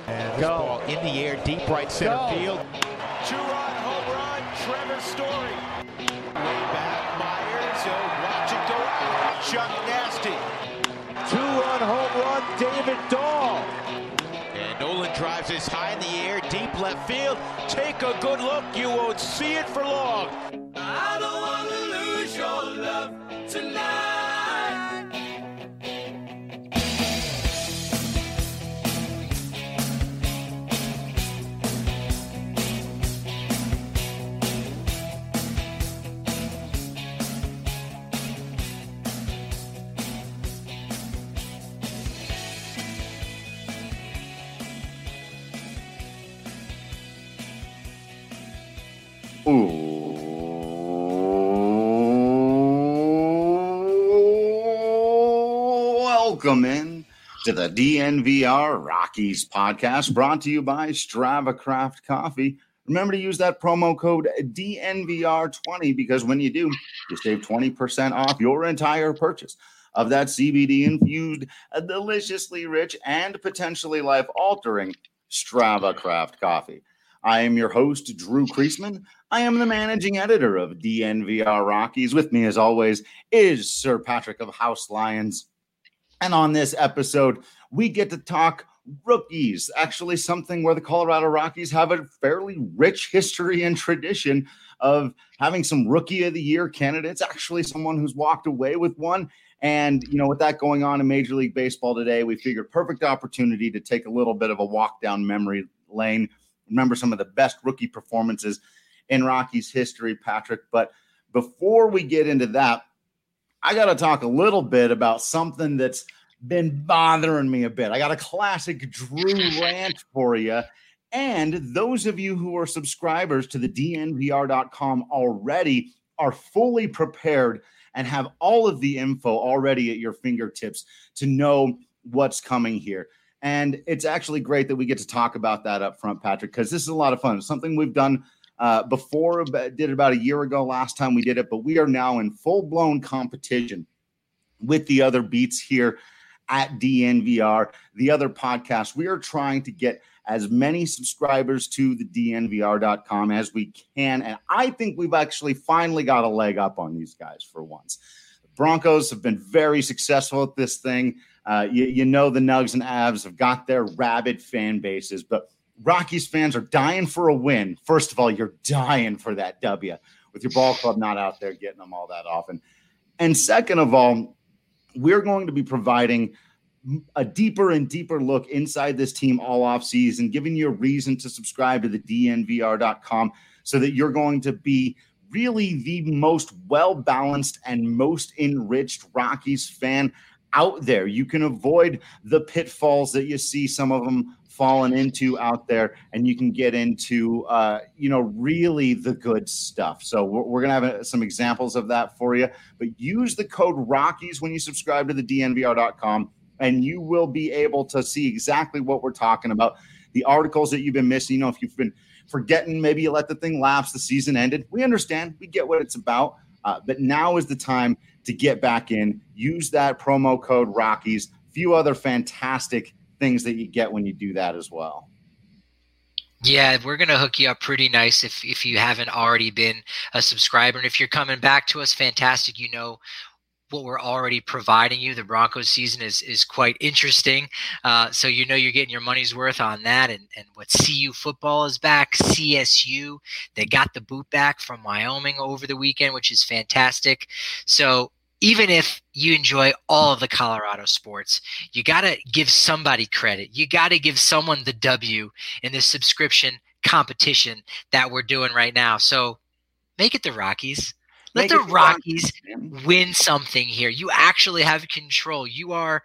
And this ball in the air, deep right center field. Two-run home run, Trevor Story. Way back, Myers, watch it go out. Chuck Nasty. Two-run home run, David Dahl. And Nolan drives this high in the air, deep left field. Take a good look, you won't see it for long. I don't want to lose your love tonight. Welcome in to the DNVR Rockies podcast, brought to you by Strava Craft Coffee. Remember to use that promo code DNVR20 because when you do, you save 20% off your entire purchase of that CBD-infused, deliciously rich, and potentially life-altering Strava Craft Coffee. I am your host, Drew Kreisman. I am the managing editor of DNVR Rockies. With me, as always, is Sir Patrick of House Lions. And on this episode, we get to talk rookies, actually something where the Colorado Rockies have a fairly rich history and tradition of having some Rookie of the Year candidates, actually someone who's walked away with one. And, you know, with that going on in Major League Baseball today, we figured perfect opportunity to take a little bit of a walk down memory lane. Remember some of the best rookie performances in Rockies history, Patrick. But before we get into that, I got to talk a little bit about something that's been bothering me a bit. I got a classic Drew rant for you. And those of you who are subscribers to the DNVR.com already are fully prepared and have all of the info already at your fingertips to know what's coming here. And it's actually great that we get to talk about that up front, Patrick, because this is a lot of fun. It's something we've done before, did it about a year ago last time we did it, but we are now in full-blown competition with the other beats here at DNVR, the other podcasts. We are trying to get as many subscribers to the DNVR.com as we can, and I think we've actually finally got a leg up on these guys for once. The Broncos have been very successful at this thing. You know the Nugs and Avs have got their rabid fan bases, but Rockies fans are dying for a win. First of all, you're dying for that W with your ball club not out there getting them all that often. And second of all, we're going to be providing a deeper and deeper look inside this team all off season, giving you a reason to subscribe to the DNVR.com so that you're going to be really the most well-balanced and most enriched Rockies fan out there. You can avoid the pitfalls that you see some of them fallen into out there, and you can get into, really the good stuff. So we're going to have some examples of that for you, but use the code Rockies when you subscribe to the DNVR.com, and you will be able to see exactly what we're talking about. The articles that you've been missing, you know, if you've been forgetting, maybe you let the thing lapse, the season ended. We understand. We get what it's about. But now is the time to get back in. Use that promo code Rockies. A few other fantastic things that you get when you do that as well. Yeah, we're going to hook you up pretty nice if you haven't already been a subscriber. And if you're coming back to us, fantastic. You know what we're already providing you. The Broncos season is quite interesting. So you know you're getting your money's worth on that. And what CU football is back, CSU. They got the boot back from Wyoming over the weekend, which is fantastic. So even if you enjoy all of the Colorado sports, you got to give somebody credit. You got to give someone the W in this subscription competition that we're doing right now. So make it the Rockies. Let the Rockies win something here. You actually have control. You are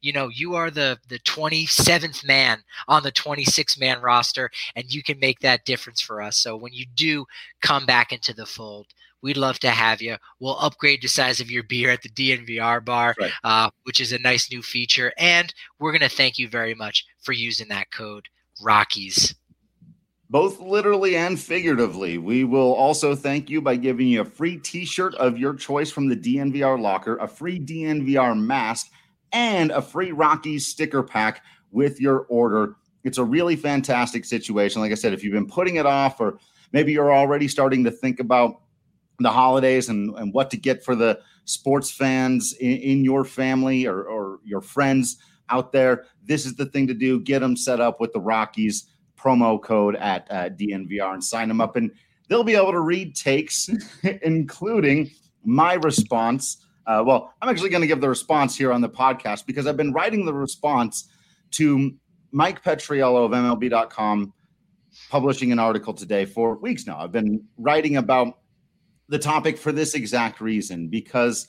the 27th man on the 26-man roster, and you can make that difference for us. So when you do come back into the fold, we'd love to have you. We'll upgrade the size of your beer at the DNVR bar, right, which is a nice new feature. And we're going to thank you very much for using that code, Rockies. Both literally and figuratively. We will also thank you by giving you a free t-shirt of your choice from the DNVR locker, a free DNVR mask, and a free Rockies sticker pack with your order It's a really fantastic situation. Like I said, if you've been putting it off, or maybe you're already starting to think about the holidays and what to get for the sports fans in your family or your friends out there, this is the thing to do. Get them set up with the Rockies promo code at DNVR and sign them up. And they'll be able to read takes, including my response. Well, I'm actually going to give the response here on the podcast because I've been writing the response to Mike Petriello of MLB.com, publishing an article today for weeks now. I've been writing about the topic for this exact reason, because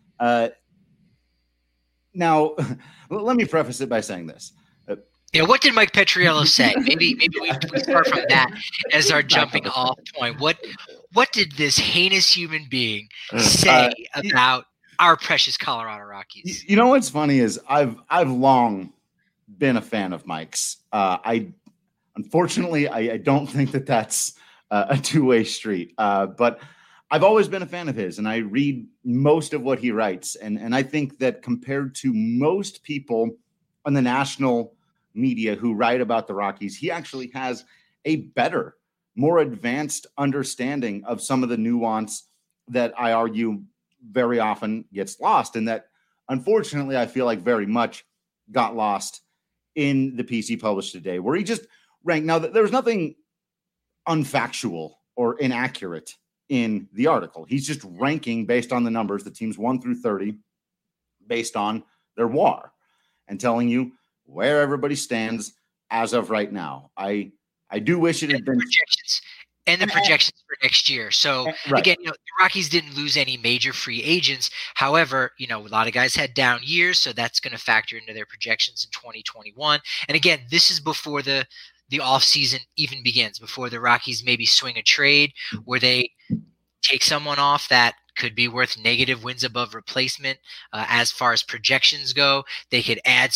now let me preface it by saying this. What did Mike Petriello say? Maybe we start from that as our jumping off point. What did this heinous human being say about our precious Colorado Rockies? You know what's funny is I've long been a fan of Mike's. Unfortunately, I don't think that's a two-way street. But I've always been a fan of his, and I read most of what he writes. And I think that compared to most people on the national media who write about the Rockies, he actually has a better, more advanced understanding of some of the nuance that I argue very often gets lost, and that unfortunately I feel like very much got lost in the piece he published today, where he just ranked. Now, there's nothing unfactual or inaccurate in the article. He's just ranking based on the numbers, the teams 1 through 30, based on their WAR, and telling you where everybody stands as of right now. I do wish it had been projections and the projections for next year. So again, the Rockies didn't lose any major free agents. However, a lot of guys had down years, so that's going to factor into their projections in 2021. And again, this is before the offseason even begins, before the Rockies maybe swing a trade where they take someone off that could be worth negative wins above replacement. As far as projections go, they could add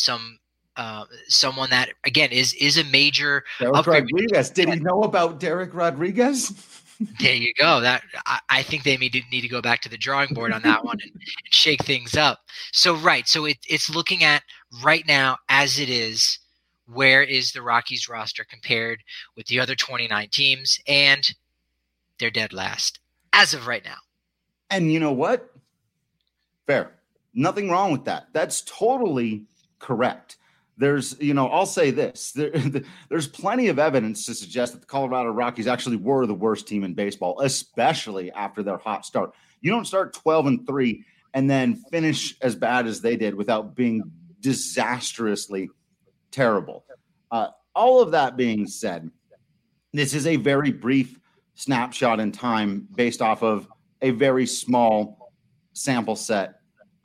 someone that again is a major Derek upgrade. Rodriguez. Did he know about Derek Rodriguez? There you go. That I think they need to go back to the drawing board on that one and shake things up. So it's looking at right now as it is. Where is the Rockies roster compared with the other 29 teams? And they're dead last as of right now. And you know what? Fair. Nothing wrong with that. That's totally correct. There's, I'll say this. There's plenty of evidence to suggest that the Colorado Rockies actually were the worst team in baseball, especially after their hot start. You don't start 12-3 and then finish as bad as they did without being disastrously terrible. All of that being said, this is a very brief snapshot in time based off of a very small sample set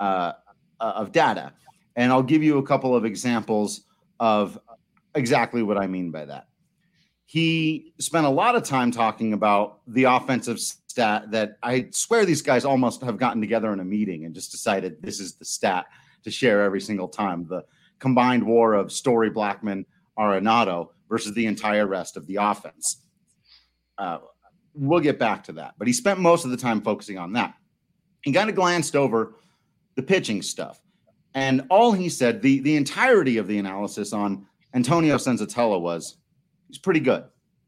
of data. And I'll give you a couple of examples of exactly what I mean by that. He spent a lot of time talking about the offensive stat that I swear these guys almost have gotten together in a meeting and just decided this is the stat to share every single time. The combined WAR of Story, Blackmon, Arenado versus the entire rest of the offense. We'll get back to that. But he spent most of the time focusing on that. He kind of glanced over the pitching stuff. And all he said, the entirety of the analysis on Antonio Senzatella was, he's pretty good.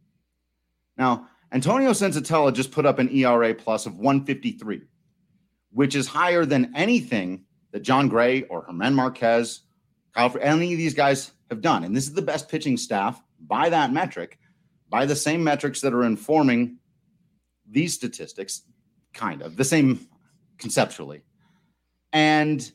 Now, Antonio Senzatella just put up an ERA plus of 153, which is higher than anything that John Gray or Germán Marquez, any of these guys have done. And this is the best pitching staff by that metric, by the same metrics that are informing these statistics, kind of the same conceptually. And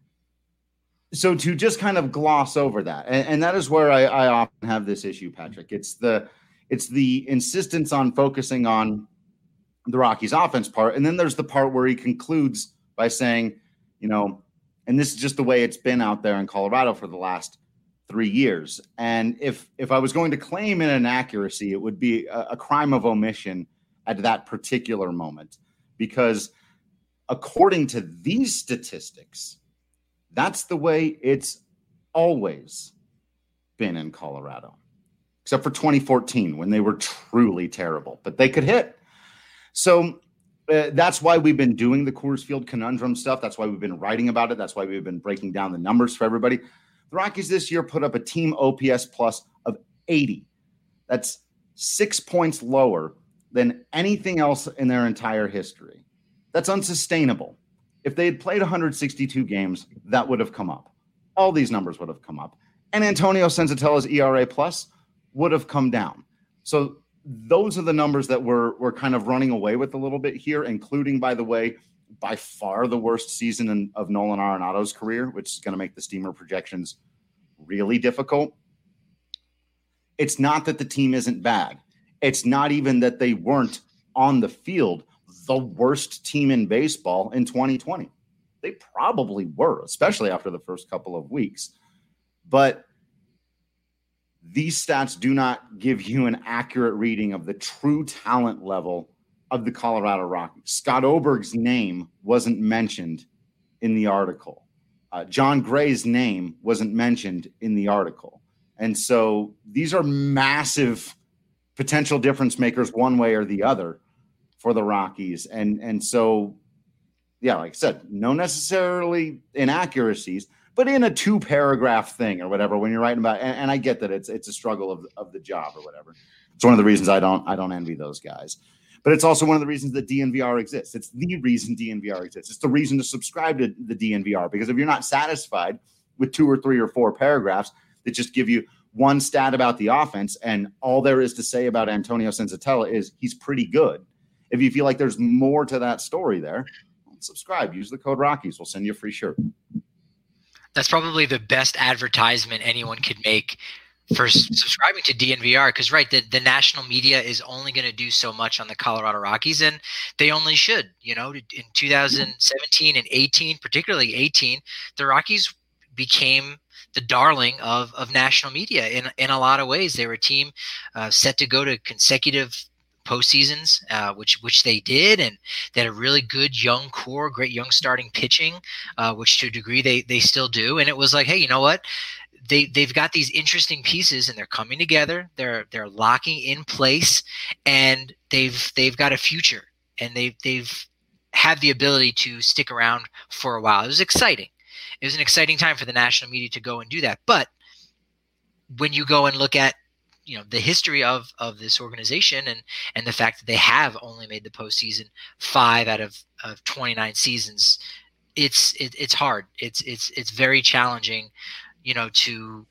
so to just kind of gloss over that, and that is where I often have this issue, Patrick. It's the insistence on focusing on the Rockies offense part. And then there's the part where he concludes by saying, and this is just the way it's been out there in Colorado for the last 3 years. And if I was going to claim an inaccuracy, it would be a crime of omission at that particular moment, because according to these statistics, that's the way it's always been in Colorado, except for 2014 when they were truly terrible, but they could hit. So that's why we've been doing the Coors Field conundrum stuff. That's why we've been writing about it. That's why we've been breaking down the numbers for everybody. The Rockies this year put up a team OPS plus of 80. That's 6 points lower than anything else in their entire history. That's unsustainable. If they had played 162 games, that would have come up. All these numbers would have come up. And Antonio Senzatella's ERA plus would have come down. So those are the numbers that we're kind of running away with a little bit here, including, by the way, by far the worst season of Nolan Arenado's career, which is going to make the Steamer projections really difficult. It's not that the team isn't bad. It's not even that they weren't on the field the worst team in baseball in 2020. They probably were, especially after the first couple of weeks. But these stats do not give you an accurate reading of the true talent level of the Colorado Rockies. Scott Oberg's name wasn't mentioned in the article. John Gray's name wasn't mentioned in the article. And so these are massive potential difference makers one way or the other for the Rockies. And so, yeah, like I said, no necessarily inaccuracies, but in a 2-paragraph thing or whatever, when you're writing about, and I get that it's a struggle of the job or whatever. It's one of the reasons I don't envy those guys. But it's also one of the reasons that DNVR exists. It's the reason DNVR exists. It's the reason to subscribe to the DNVR, because if you're not satisfied with 2 or 3 or 4 paragraphs that just give you one stat about the offense and all there is to say about Antonio Senzatella is he's pretty good. If you feel like there's more to that story there, subscribe. Use the code Rockies. We'll send you a free shirt. That's probably the best advertisement anyone could make for subscribing to DNVR, because the national media is only going to do so much on the Colorado Rockies, and they only should. In 2017 and 18, particularly 18, the Rockies became the darling of national media in a lot of ways. They were a team set to go to consecutive postseasons, which they did, and they had a really good young core, great young starting pitching, which to a degree they still do. And it was like, hey, you know what? They've got these interesting pieces, and they're coming together. They're locking in place, and they've got a future, and they've had the ability to stick around for a while. It was exciting. It was an exciting time for the national media to go and do that. But when you go and look at the history of this organization and the fact that they have only made the postseason 5 out of 29 seasons, it's hard. It's very challenging, to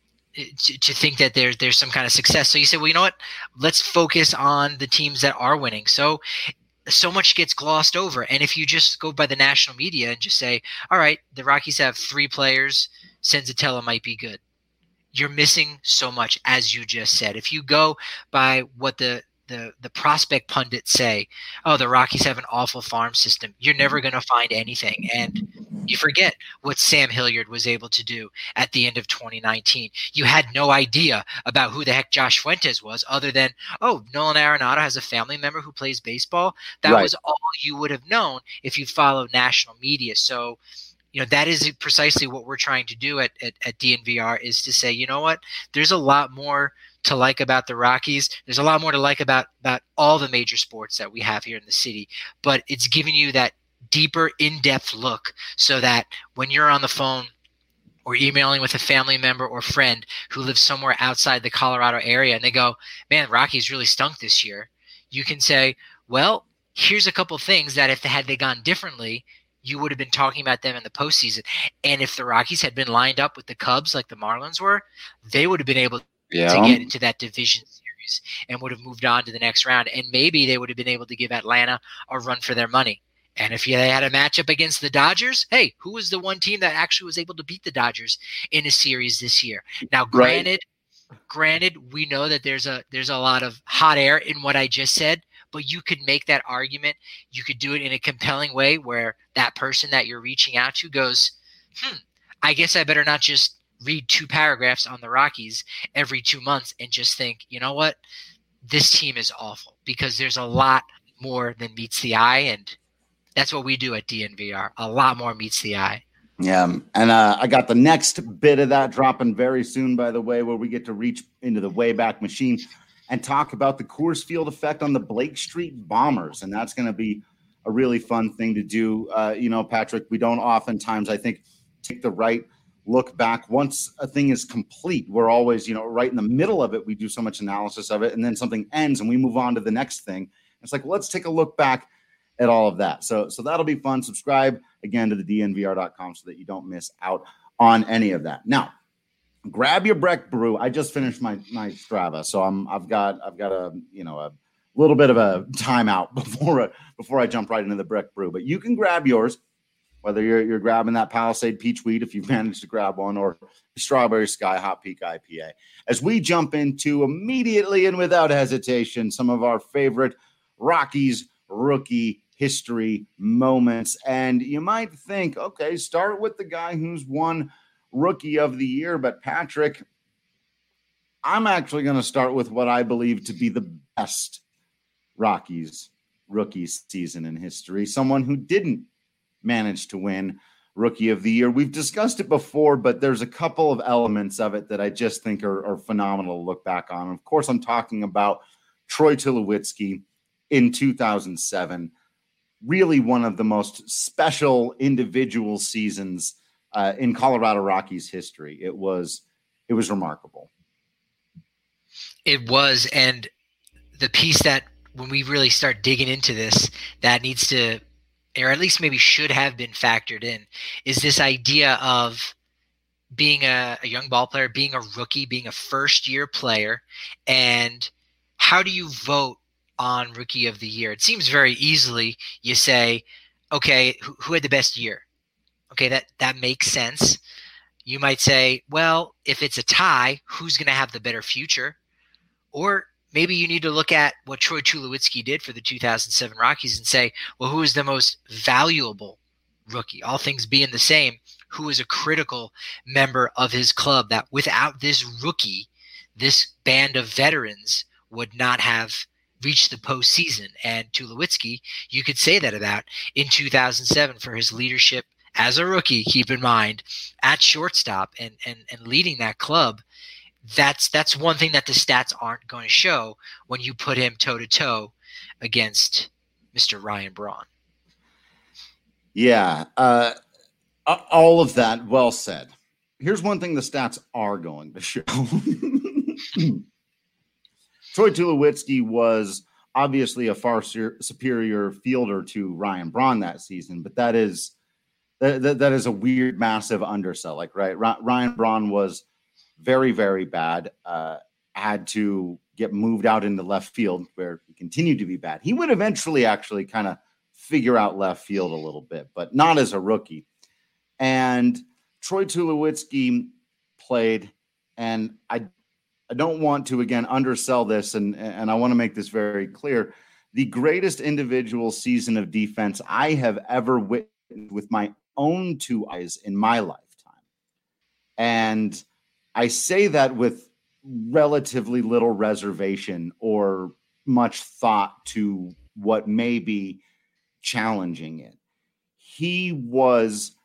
think that there's some kind of success. So you say, well, you know what? Let's focus on the teams that are winning. So much gets glossed over. And if you just go by the national media and just say, all right, the Rockies have 3 players, Senzatella might be good, you're missing so much, as you just said. If you go by what the prospect pundits say, oh, the Rockies have an awful farm system, you're never going to find anything. And you forget what Sam Hilliard was able to do at the end of 2019. You had no idea about who the heck Josh Fuentes was, other than, oh, Nolan Arenado has a family member who plays baseball. That was all you would have known if you followed national media. So, that is precisely what we're trying to do at DNVR, is to say, you know what, there's a lot more to like about the Rockies. There's a lot more to like about all the major sports that we have here in the city, but it's giving you that deeper, in-depth look so that when you're on the phone or emailing with a family member or friend who lives somewhere outside the Colorado area and they go, man, Rockies really stunk this year, you can say, well, here's a couple things that if they gone differently, you would have been talking about them in the postseason. And if the Rockies had been lined up with the Cubs like the Marlins were, they would have been able to get into that division series and would have moved on to the next round. And maybe they would have been able to give Atlanta a run for their money. And if they had a matchup against the Dodgers, hey, who was the one team that actually was able to beat the Dodgers in a series this year? Now, granted, we know that there's a lot of hot air in what I just said, but you could make that argument. You could do it in a compelling way where that person that you're reaching out to goes, I guess I better not just read 2 paragraphs on the Rockies every 2 months and just think, you know what, this team is awful, because there's a lot more than meets the eye. And that's what we do at DNVR. A lot more meets the eye. Yeah. And I got the next bit of that dropping very soon, by the way, where we get to reach into the Wayback Machine and talk about the Coors Field effect on the Blake Street Bombers. And that's going to be a really fun thing to do. Patrick, we don't oftentimes, I think, take the right look back once a thing is complete. We're always, right in the middle of it. We do so much analysis of it, and then something ends and we move on to the next thing. It's like, well, let's take a look back at all of that. So that'll be fun. Subscribe again to the dnvr.com so that you don't miss out on any of that. Now, grab your Breck Brew. I just finished my Strava, so I've got a little bit of a timeout before I jump right into the Breck Brew. But you can grab yours, whether you're grabbing that Palisade Peach Wheat if you've managed to grab one, or Strawberry Sky Hot Peak IPA. As we jump into immediately and without hesitation some of our favorite Rockies rookie history moments. And you might think, okay, start with the guy who's won Rookie of the Year. But Patrick, I'm actually going to start with what I believe to be the best Rockies rookie season in history. Someone who didn't manage to win Rookie of the Year. We've discussed it before, but there's a couple of elements of it that I just think are phenomenal to look back on. Of course, I'm talking about Troy Tulowitzki in 2007. Really one of the most special individual seasons in Colorado Rockies history. It was remarkable. It was, and the piece that when we really start digging into this, that needs to, or at least maybe should have been factored in, is this idea of being a young ball player, being a rookie, being a first-year player, and how do you vote on Rookie of the Year? It seems very easily you say, okay, who had the best year? Okay, that makes sense. You might say, well, if it's a tie, who's going to have the better future? Or maybe you need to look at what Troy Tulowitzki did for the 2007 Rockies and say, well, who is the most valuable rookie? All things being the same, who is a critical member of his club that without this rookie, this band of veterans would not have reached the postseason? And Tulowitzki, you could say that about in 2007 for his leadership as a rookie, keep in mind, at shortstop and leading that club. That's one thing that the stats aren't going to show when you put him toe-to-toe against Mr. Ryan Braun. Yeah, all of that well said. Here's one thing the stats are going to show. Troy Tulowitzki was obviously a far superior fielder to Ryan Braun that season, but that is a weird, massive undersell. Like, right, Ryan Braun was very, very bad, had to get moved out into left field where he continued to be bad. He would eventually actually kind of figure out left field a little bit, but not as a rookie. And Troy Tulowitzki played, and I don't want to, again, undersell this, and I want to make this very clear. The greatest individual season of defense I have ever witnessed with my own two eyes in my lifetime. And I say that with relatively little reservation or much thought to what may be challenging it. He was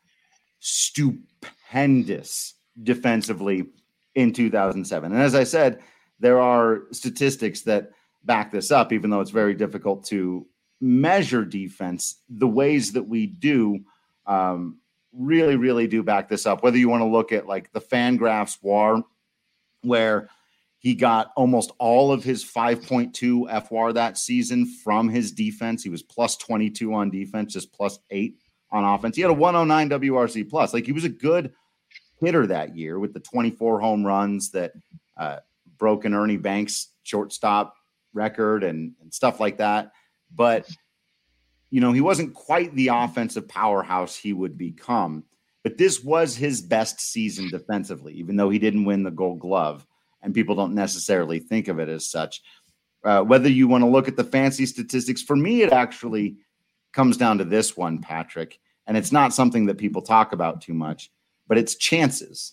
stupendous defensively in 2007. And as I said, there are statistics that back this up, even though it's very difficult to measure defense. The ways that we do really, really do back this up. Whether you want to look at like the Fangraphs WAR, where he got almost all of his 5.2 FWAR that season from his defense. He was plus 22 on defense, just plus 8 on offense. He had a 109 WRC plus. Like, he was a good hitter that year with the 24 home runs that broke an Ernie Banks shortstop record and stuff like that. But, you know, he wasn't quite the offensive powerhouse he would become. But this was his best season defensively, even though he didn't win the Gold Glove. And people don't necessarily think of it as such. Whether you want to look at the fancy statistics, for me, it actually comes down to this one, Patrick. And it's not something that people talk about too much, but it's chances.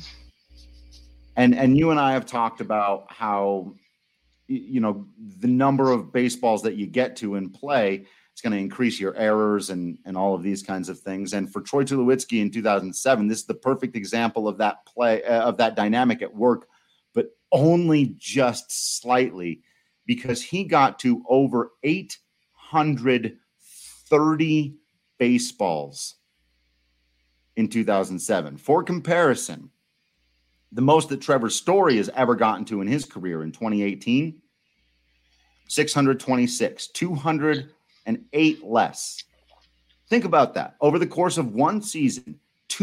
And you and I have talked about how, you know, the number of baseballs that you get to in play, it's going to increase your errors and all of these kinds of things. And for Troy Tulowitzki in 2007, this is the perfect example of that play, of that dynamic at work, but only just slightly, because he got to over 830 baseballs in 2007. For comparison, the most that Trevor Story has ever gotten to in his career in 2018, 626, 208 less. Think about that. Over the course of one season,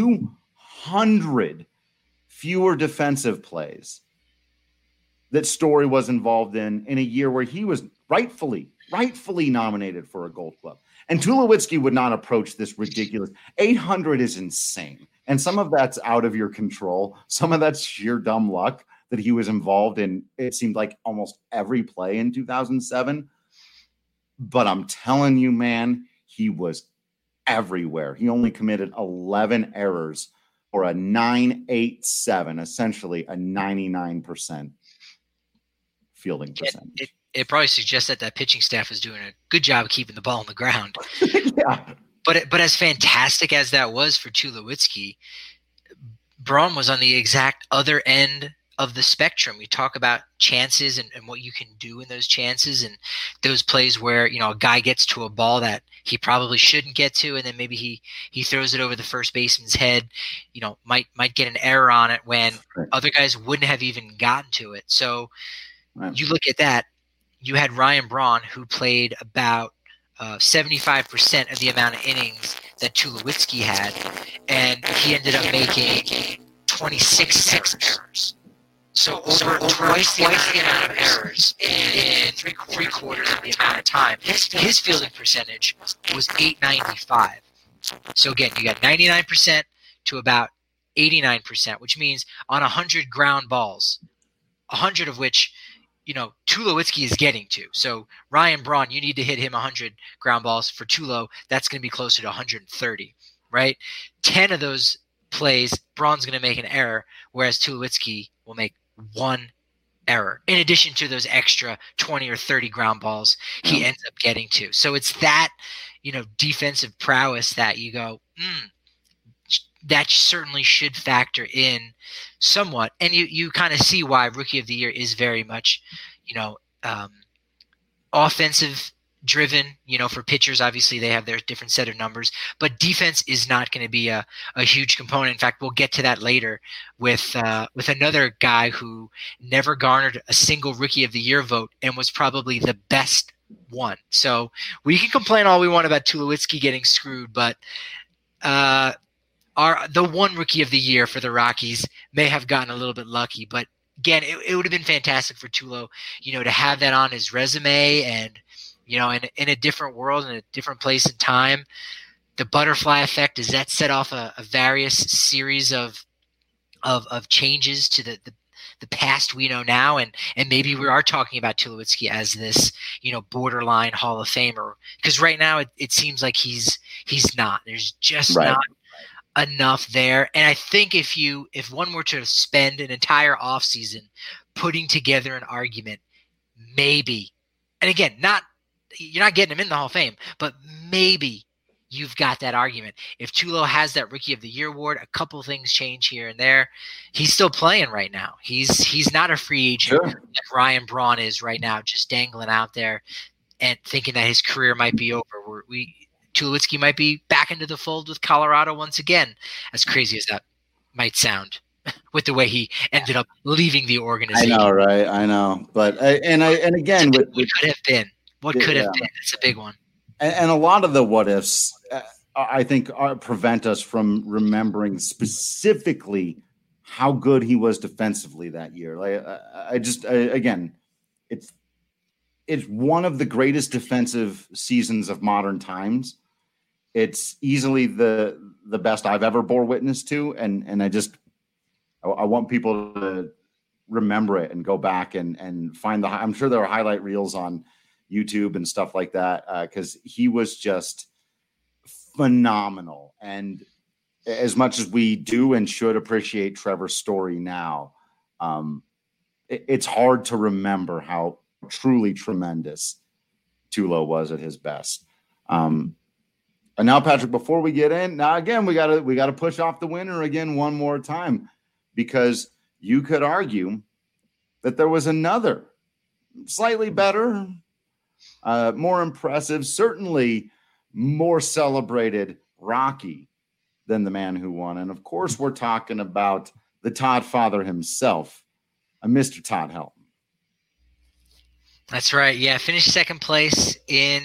200 fewer defensive plays that Story was involved in a year where he was rightfully nominated for a Gold Glove. And Tulowitzki would not approach this ridiculous. 800 is insane. And some of that's out of your control. Some of that's sheer dumb luck that he was involved in. It seemed like almost every play in 2007. But I'm telling you, man, he was everywhere. He only committed 11 errors for a 987, essentially a 99% fielding percentage. It probably suggests that pitching staff is doing a good job of keeping the ball on the ground. Yeah. But as fantastic as that was for Tulowitzki, Braun was on the exact other end of the spectrum. We talk about chances and what you can do in those chances and those plays where, a guy gets to a ball that he probably shouldn't get to, and then maybe he throws it over the first baseman's head, might get an error on it when other guys wouldn't have even gotten to it. So you look at that, you had Ryan Braun, who played about 75% of the amount of innings that Tulowitzki had, and he ended up making 26 errors. So over twice the amount of errors in three quarters of the amount of time. His fielding percentage was .895. So again, you got 99% to about 89%, which means on 100 ground balls, 100 of which Tulowitzki is getting to. So Ryan Braun, you need to hit him 100 ground balls. For Tulo, that's going to be closer to 130, right? 10 of those plays, Braun's going to make an error, whereas Tulowitzki will make one error in addition to those extra 20 or 30 ground balls he ends up getting to. So it's that, defensive prowess that you go, that certainly should factor in somewhat. And you kind of see why Rookie of the Year is very much, offensive driven. For pitchers, obviously they have their different set of numbers, but defense is not going to be a huge component. In fact, we'll get to that later with another guy who never garnered a single Rookie of the Year vote and was probably the best one. So we can complain all we want about Tulowitzki getting screwed, but the one Rookie of the Year for the Rockies may have gotten a little bit lucky, but again, it would have been fantastic for Tulo, to have that on his resume and, in a different world, in a different place and time. The butterfly effect, does that set off a various series of changes to the past we know now? And maybe we are talking about Tulowitzki as this, borderline Hall of Famer, because right now it seems like he's not. There's just not enough there. And I think if one were to spend an entire offseason putting together an argument, maybe, and again, you're not getting him in the Hall of Fame, but maybe you've got that argument. If Tulo has that Rookie of the Year award, a couple things change here and there. He's still playing right now. He's not a free agent like Ryan Braun is right now, just dangling out there and thinking that his career might be over. Tulowitzki might be back into the fold with Colorado once again, as crazy as that might sound, with the way he ended up leaving the organization. I know, right? I know, but again, what could have been? What could have been? It's a big one. And a lot of the what ifs, I think, prevent us from remembering specifically how good he was defensively that year. Again, it's one of the greatest defensive seasons of modern times. It's easily the best I've ever bore witness to. And I want people to remember it and go back and find I'm sure there are highlight reels on YouTube and stuff like that. Cause he was just phenomenal. And as much as we do and should appreciate Trevor's Story now, it's hard to remember how truly tremendous Tulo was at his best. And now, Patrick, before we get in, now again, we gotta push off the winner again one more time, because you could argue that there was another slightly better, more impressive, certainly more celebrated Rocky than the man who won. And of course, we're talking about the Todd father himself, Mr. Todd Helton. That's right. Yeah, finished second place in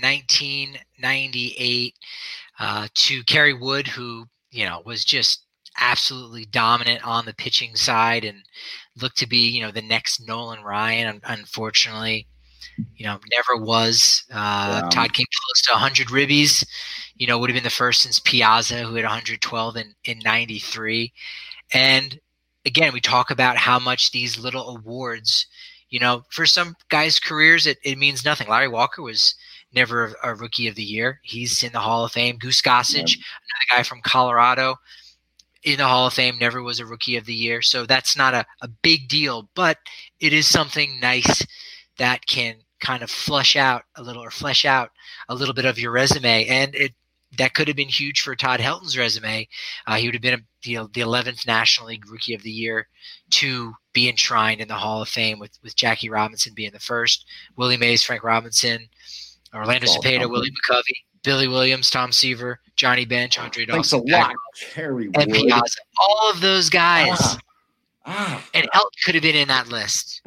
1998 to Kerry Wood, who, was just absolutely dominant on the pitching side and looked to be, the next Nolan Ryan. Unfortunately, never was. Todd came close to 100 ribbies, would have been the first since Piazza, who had 112 in 93. And again, we talk about how much these little awards, for some guys' careers, it means nothing. Larry Walker was never a Rookie of the Year. He's in the Hall of Fame. Goose Gossage, another guy from Colorado, in the Hall of Fame, never was a Rookie of the Year. So that's not a big deal, but it is something nice that can kind of flesh out a little bit of your resume. And that could have been huge for Todd Helton's resume. He would have been the 11th National League Rookie of the Year to be enshrined in the Hall of Fame, with Jackie Robinson being the first, Willie Mays, Frank Robinson, Orlando Cepeda, Willie McCovey, Billy Williams, Tom Seaver, Johnny Bench, Andre Dawson, Thanks a lot, Kerry Wood. and Piazza. All of those guys. And Helton could have been in that list.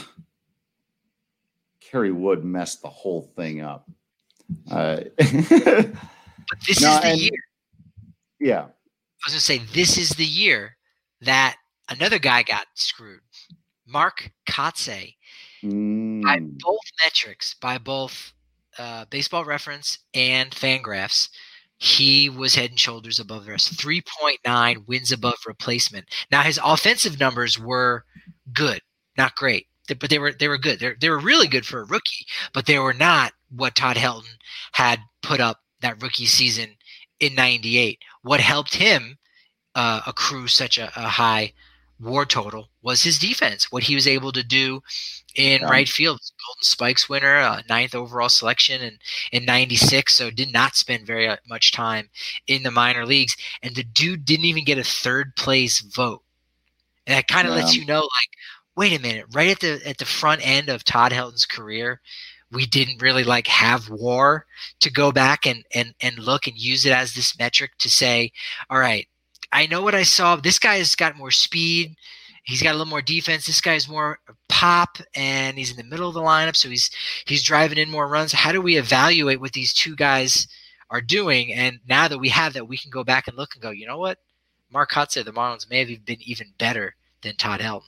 Kerry Wood messed the whole thing up. But this is the year. Yeah. I was going to say, this is the year that another guy got screwed. Mark Kotsay. By both metrics, by both Baseball Reference and Fangraphs, he was head and shoulders above the rest. 3.9 wins above replacement. Now, his offensive numbers were good, not great, but they were good. They were really good for a rookie, but they were not what Todd Helton had put up that rookie season in 98. What helped him accrue such a high WAR total was his defense, what he was able to do in right field. Golden Spikes winner, 9th overall selection in 96, so did not spend very much time in the minor leagues. And the dude didn't even get a third place vote. And that kind of lets you know, like, wait a minute, right at the front end of Todd Helton's career, we didn't really have WAR to go back and look and use it as this metric to say, all right, I know what I saw. This guy has got more speed. He's got a little more defense. This guy's more pop, and he's in the middle of the lineup, so he's driving in more runs. How do we evaluate what these two guys are doing? And now that we have that, we can go back and look and go, you know what? Mark Kotsay, the Marlins may have been even better than Todd Helton.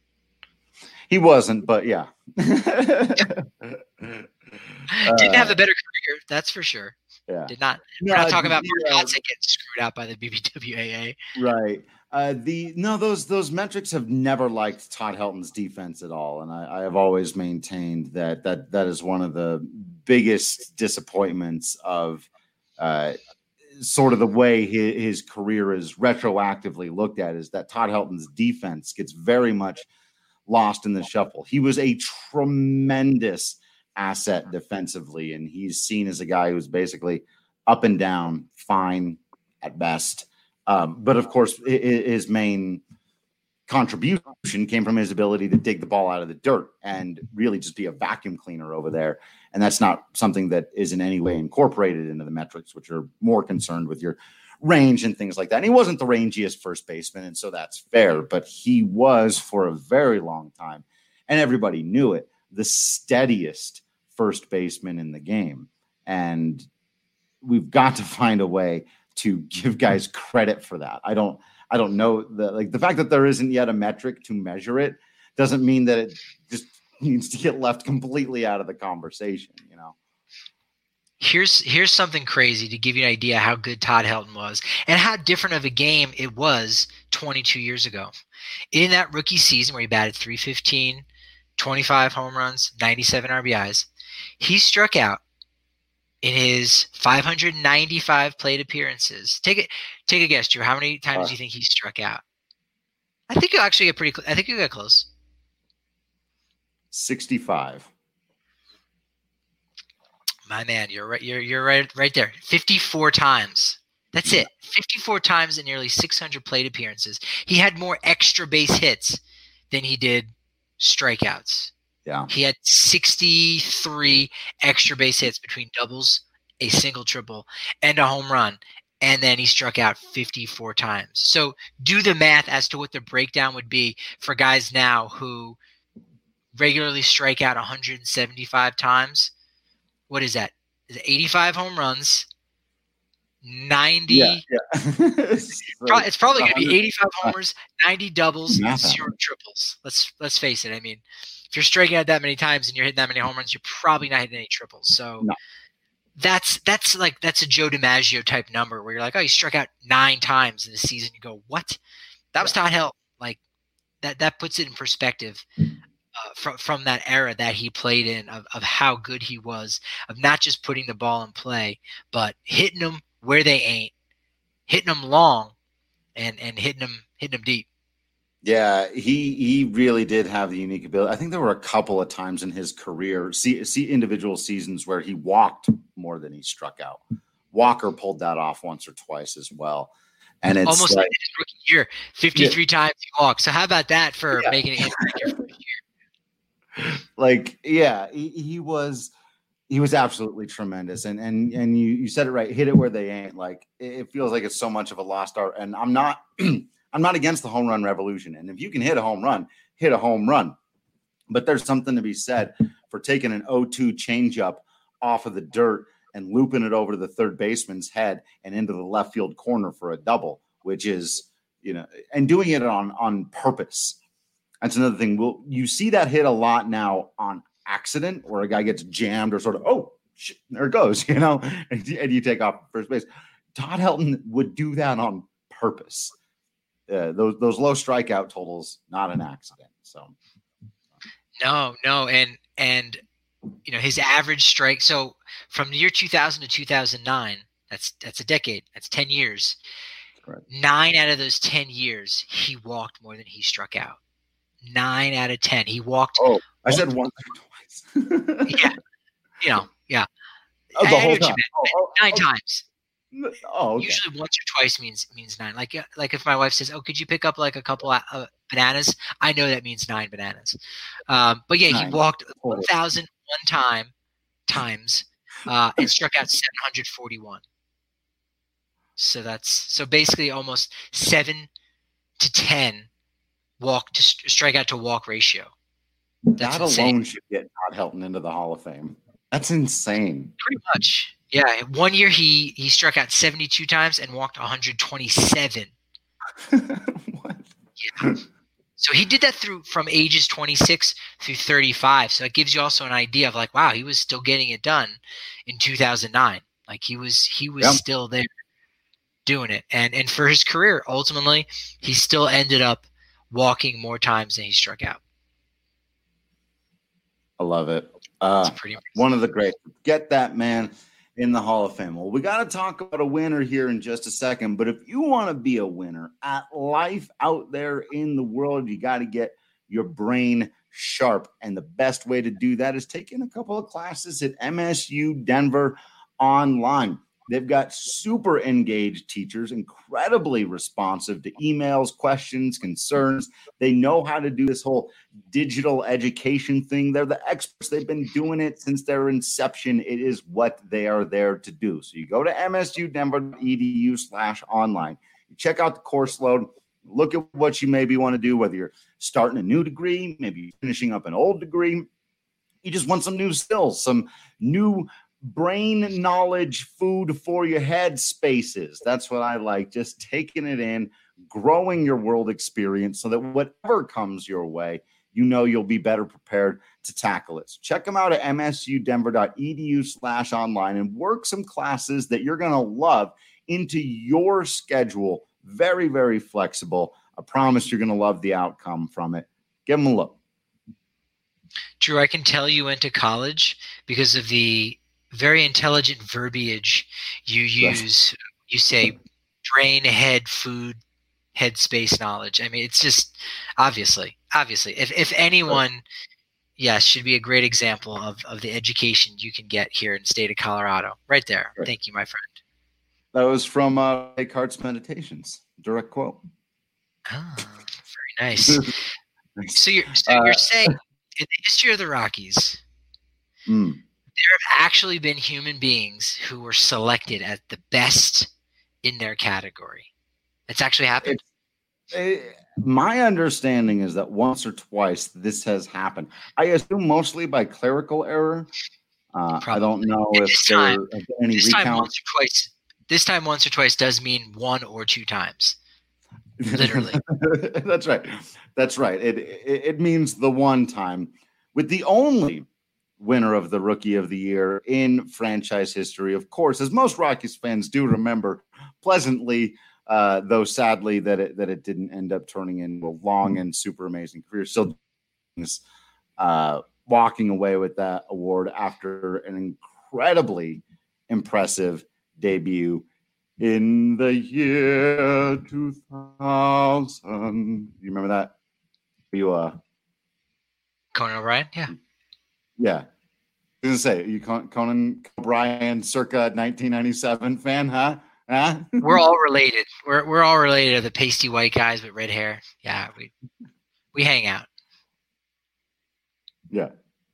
He wasn't, but yeah. Didn't have a better career, that's for sure. Yeah. Did not. We're not talking about Mark Kotsay getting screwed out by the BBWAA. Right. Those metrics have never liked Todd Helton's defense at all, and I have always maintained that is one of the biggest disappointments of sort of the way his career is retroactively looked at, is that Todd Helton's defense gets very much lost in the shuffle. He was a tremendous asset defensively, and he's seen as a guy who's basically up and down, fine at best. But of course, his main contribution came from his ability to dig the ball out of the dirt and really just be a vacuum cleaner over there. And that's not something that is in any way incorporated into the metrics, which are more concerned with your range and things like that. And he wasn't the rangiest first baseman, and so that's fair, but he was for a very long time, and everybody knew it, the steadiest first baseman in the game. And we've got to find a way to give guys credit for that. I don't know the fact that there isn't yet a metric to measure it doesn't mean that it just needs to get left completely out of the conversation, you know. Here's something crazy to give you an idea how good Todd Helton was and how different of a game it was 22 years ago. In that rookie season where he batted .315, 25 home runs, 97 RBIs, he struck out in his 595 plate appearances. Take a guess, Drew. How many times do you think he struck out? I think you'll actually get pretty close. I think you'll get close. 65. My man, you're right. You're right there. 54 times. That's it. 54 times in nearly 600 plate appearances. He had more extra base hits than he did strikeouts. Yeah. He had 63 extra base hits between doubles, a single, triple, and a home run. and then he struck out 54 times. So do the math as to what the breakdown would be for guys now who regularly strike out 175 times. What is that? Is it 85 home runs, 90? Yeah. It's probably going to be 85 homers, 90 doubles, Math 0 triples. Let's face it. I mean, if you're striking out that many times and you're hitting that many home runs, you're probably not hitting any triples. So No. that's a Joe DiMaggio type number where you're like, oh, you struck out 9 times in a season. You go, what? That was Todd Helton. Like that puts it in perspective. From that era that he played in, of how good he was, of not just putting the ball in play, but hitting them where they ain't, hitting them long, and hitting them deep. Yeah, he really did have the unique ability. I think there were a couple of times in his career, see individual seasons where he walked more than he struck out. Walker pulled that off once or twice as well. And it's almost like his rookie year, 53 times he walked. So how about that for making it your first year? Like, yeah, he was absolutely tremendous. And you said it right, hit it where they ain't. Like, it feels like it's so much of a lost art. And I'm not against the home run revolution. And if you can hit a home run, hit a home run. But there's something to be said for taking an 0-2 changeup off of the dirt and looping it over to the third baseman's head and into the left field corner for a double, which is, and doing it on purpose. That's another thing. You see that hit a lot now on accident, where a guy gets jammed or sort of, oh, shit, there it goes, and you take off first base. Todd Helton would do that on purpose. Those low strikeout totals, not an accident. So no, and his average strike. So from the year 2000 to 2009, that's a decade. That's 10 years. Correct. 9 out of those 10 years, he walked more than he struck out. 9 out of 10. He walked. Oh, I said once or twice. Yeah. Oh, the whole time. 9 times. Oh, okay. Usually once or twice means 9. Like if my wife says, "Oh, could you pick up like a couple of bananas?" I know that means 9 bananas. But yeah, 9. He walked 1,001 times and struck out 741. So basically almost 7 to 10 walk to strikeout to walk ratio. That alone should get Todd Helton into the Hall of Fame. That's insane. Pretty much. Yeah. One year he struck out 72 times and walked 127. What? Yeah. So he did that from ages 26 through 35. So it gives you also an idea of like, wow, he was still getting it done in 2009. Like he was still there doing it. And for his career, ultimately, he still ended up walking more times than he struck out. I love it. One of the great. Get that man in the Hall of Fame. Well, we got to talk about a winner here in just a second. But if you want to be a winner at life out there in the world, you got to get your brain sharp. And the best way to do that is taking a couple of classes at MSU Denver online. They've got super engaged teachers, incredibly responsive to emails, questions, concerns. They know how to do this whole digital education thing. They're the experts. They've been doing it since their inception. It is what they are there to do. So you go to msudenver.edu/online. You check out the course load. Look at what you maybe want to do, whether you're starting a new degree, maybe you're finishing up an old degree. You just want some new skills, some new brain knowledge, food for your head spaces. That's what I like. Just taking it in, growing your world experience so that whatever comes your way, you'll be better prepared to tackle it. So check them out at msudenver.edu/online and work some classes that you're going to love into your schedule. Very, very flexible. I promise you're going to love the outcome from it. Give them a look. Drew, I can tell you went to college because of the very intelligent verbiage you use. You say brain, head, food, head space knowledge. I mean, it's just obviously, if anyone, yes, should be a great example of the education you can get here in the state of Colorado. Right there. Right. Thank you, my friend. That was from Descartes' Meditations. Direct quote. Oh, very nice. So you're saying in the history of the Rockies, there have actually been human beings who were selected as the best in their category. It's actually happened. My understanding is that once or twice this has happened. I assume mostly by clerical error. I don't know if there have been any recounts. This time once or twice does mean 1 or 2 times. Literally. That's right. That's right. It means the one time, with the only winner of the Rookie of the Year in franchise history, of course, as most Rockies fans do remember pleasantly, though sadly that it didn't end up turning into a long and super amazing career. Still walking away with that award after an incredibly impressive debut in the year 2000. You remember that? You Conan O'Brien? Yeah. Yeah. I was gonna say, you Conan O'Brien circa 1997 fan, huh? We're all related. We're all related to the pasty white guys with red hair. Yeah, we hang out. Yeah.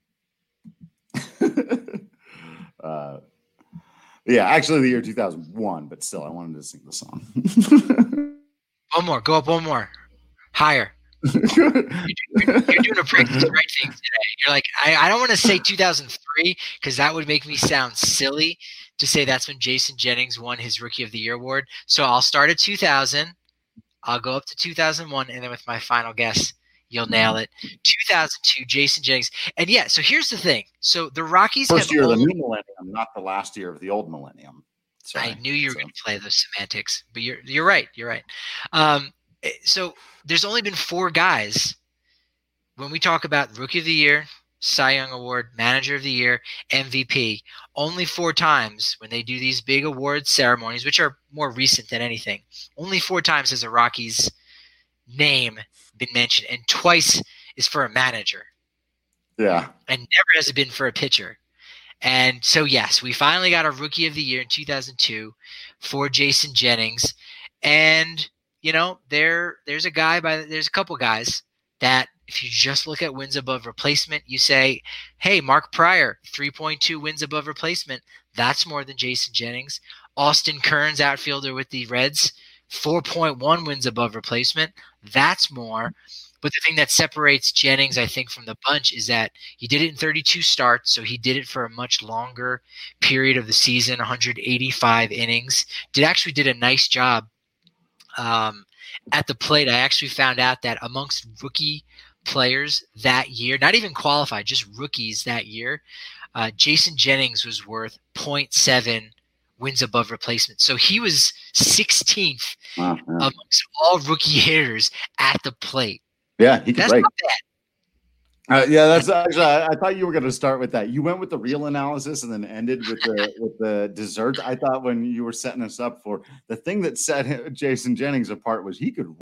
Yeah, actually the year 2001, but still I wanted to sing the song. One more. Go up one more. Higher. You're doing a pretty the right thing today. You're like, I don't want to say 2003 because that would make me sound silly to say that's when Jason Jennings won his Rookie of the Year award. So I'll start at 2000. I'll go up to 2001, and then with my final guess, you'll nail it. 2002, Jason Jennings. And yeah, so here's the thing. So the Rockies first year of the new millennium, not the last year of the old millennium. Sorry. I knew you were going to play those semantics, but you're right. You're right. So there's only been 4 guys when we talk about Rookie of the Year, Cy Young Award, Manager of the Year, MVP. Only 4 times when they do these big award ceremonies, which are more recent than anything. Only 4 times has a Rockies name been mentioned, and twice is for a manager. Yeah. And never has it been for a pitcher. And so, yes, we finally got a Rookie of the Year in 2002 for Jason Jennings. And you know, there's a couple guys that if you just look at wins above replacement, you say, hey, Mark Prior, 3.2 wins above replacement. That's more than Jason Jennings. Austin Kearns, outfielder with the Reds, 4.1 wins above replacement. That's more. But the thing that separates Jennings, I think, from the bunch is that he did it in 32 starts, so he did it for a much longer period of the season, 185 innings. Actually did a nice job at the plate. I actually found out that amongst rookie players that year, not even qualified, just rookies that year, Jason Jennings was worth 0.7 wins above replacement. So he was 16th amongst all rookie hitters at the plate. Yeah, he could That's break. not bad. Yeah, that's actually. I thought you were going to start with that. You went with the real analysis and then ended with the dessert. I thought when you were setting us up for the thing that set Jason Jennings apart was he could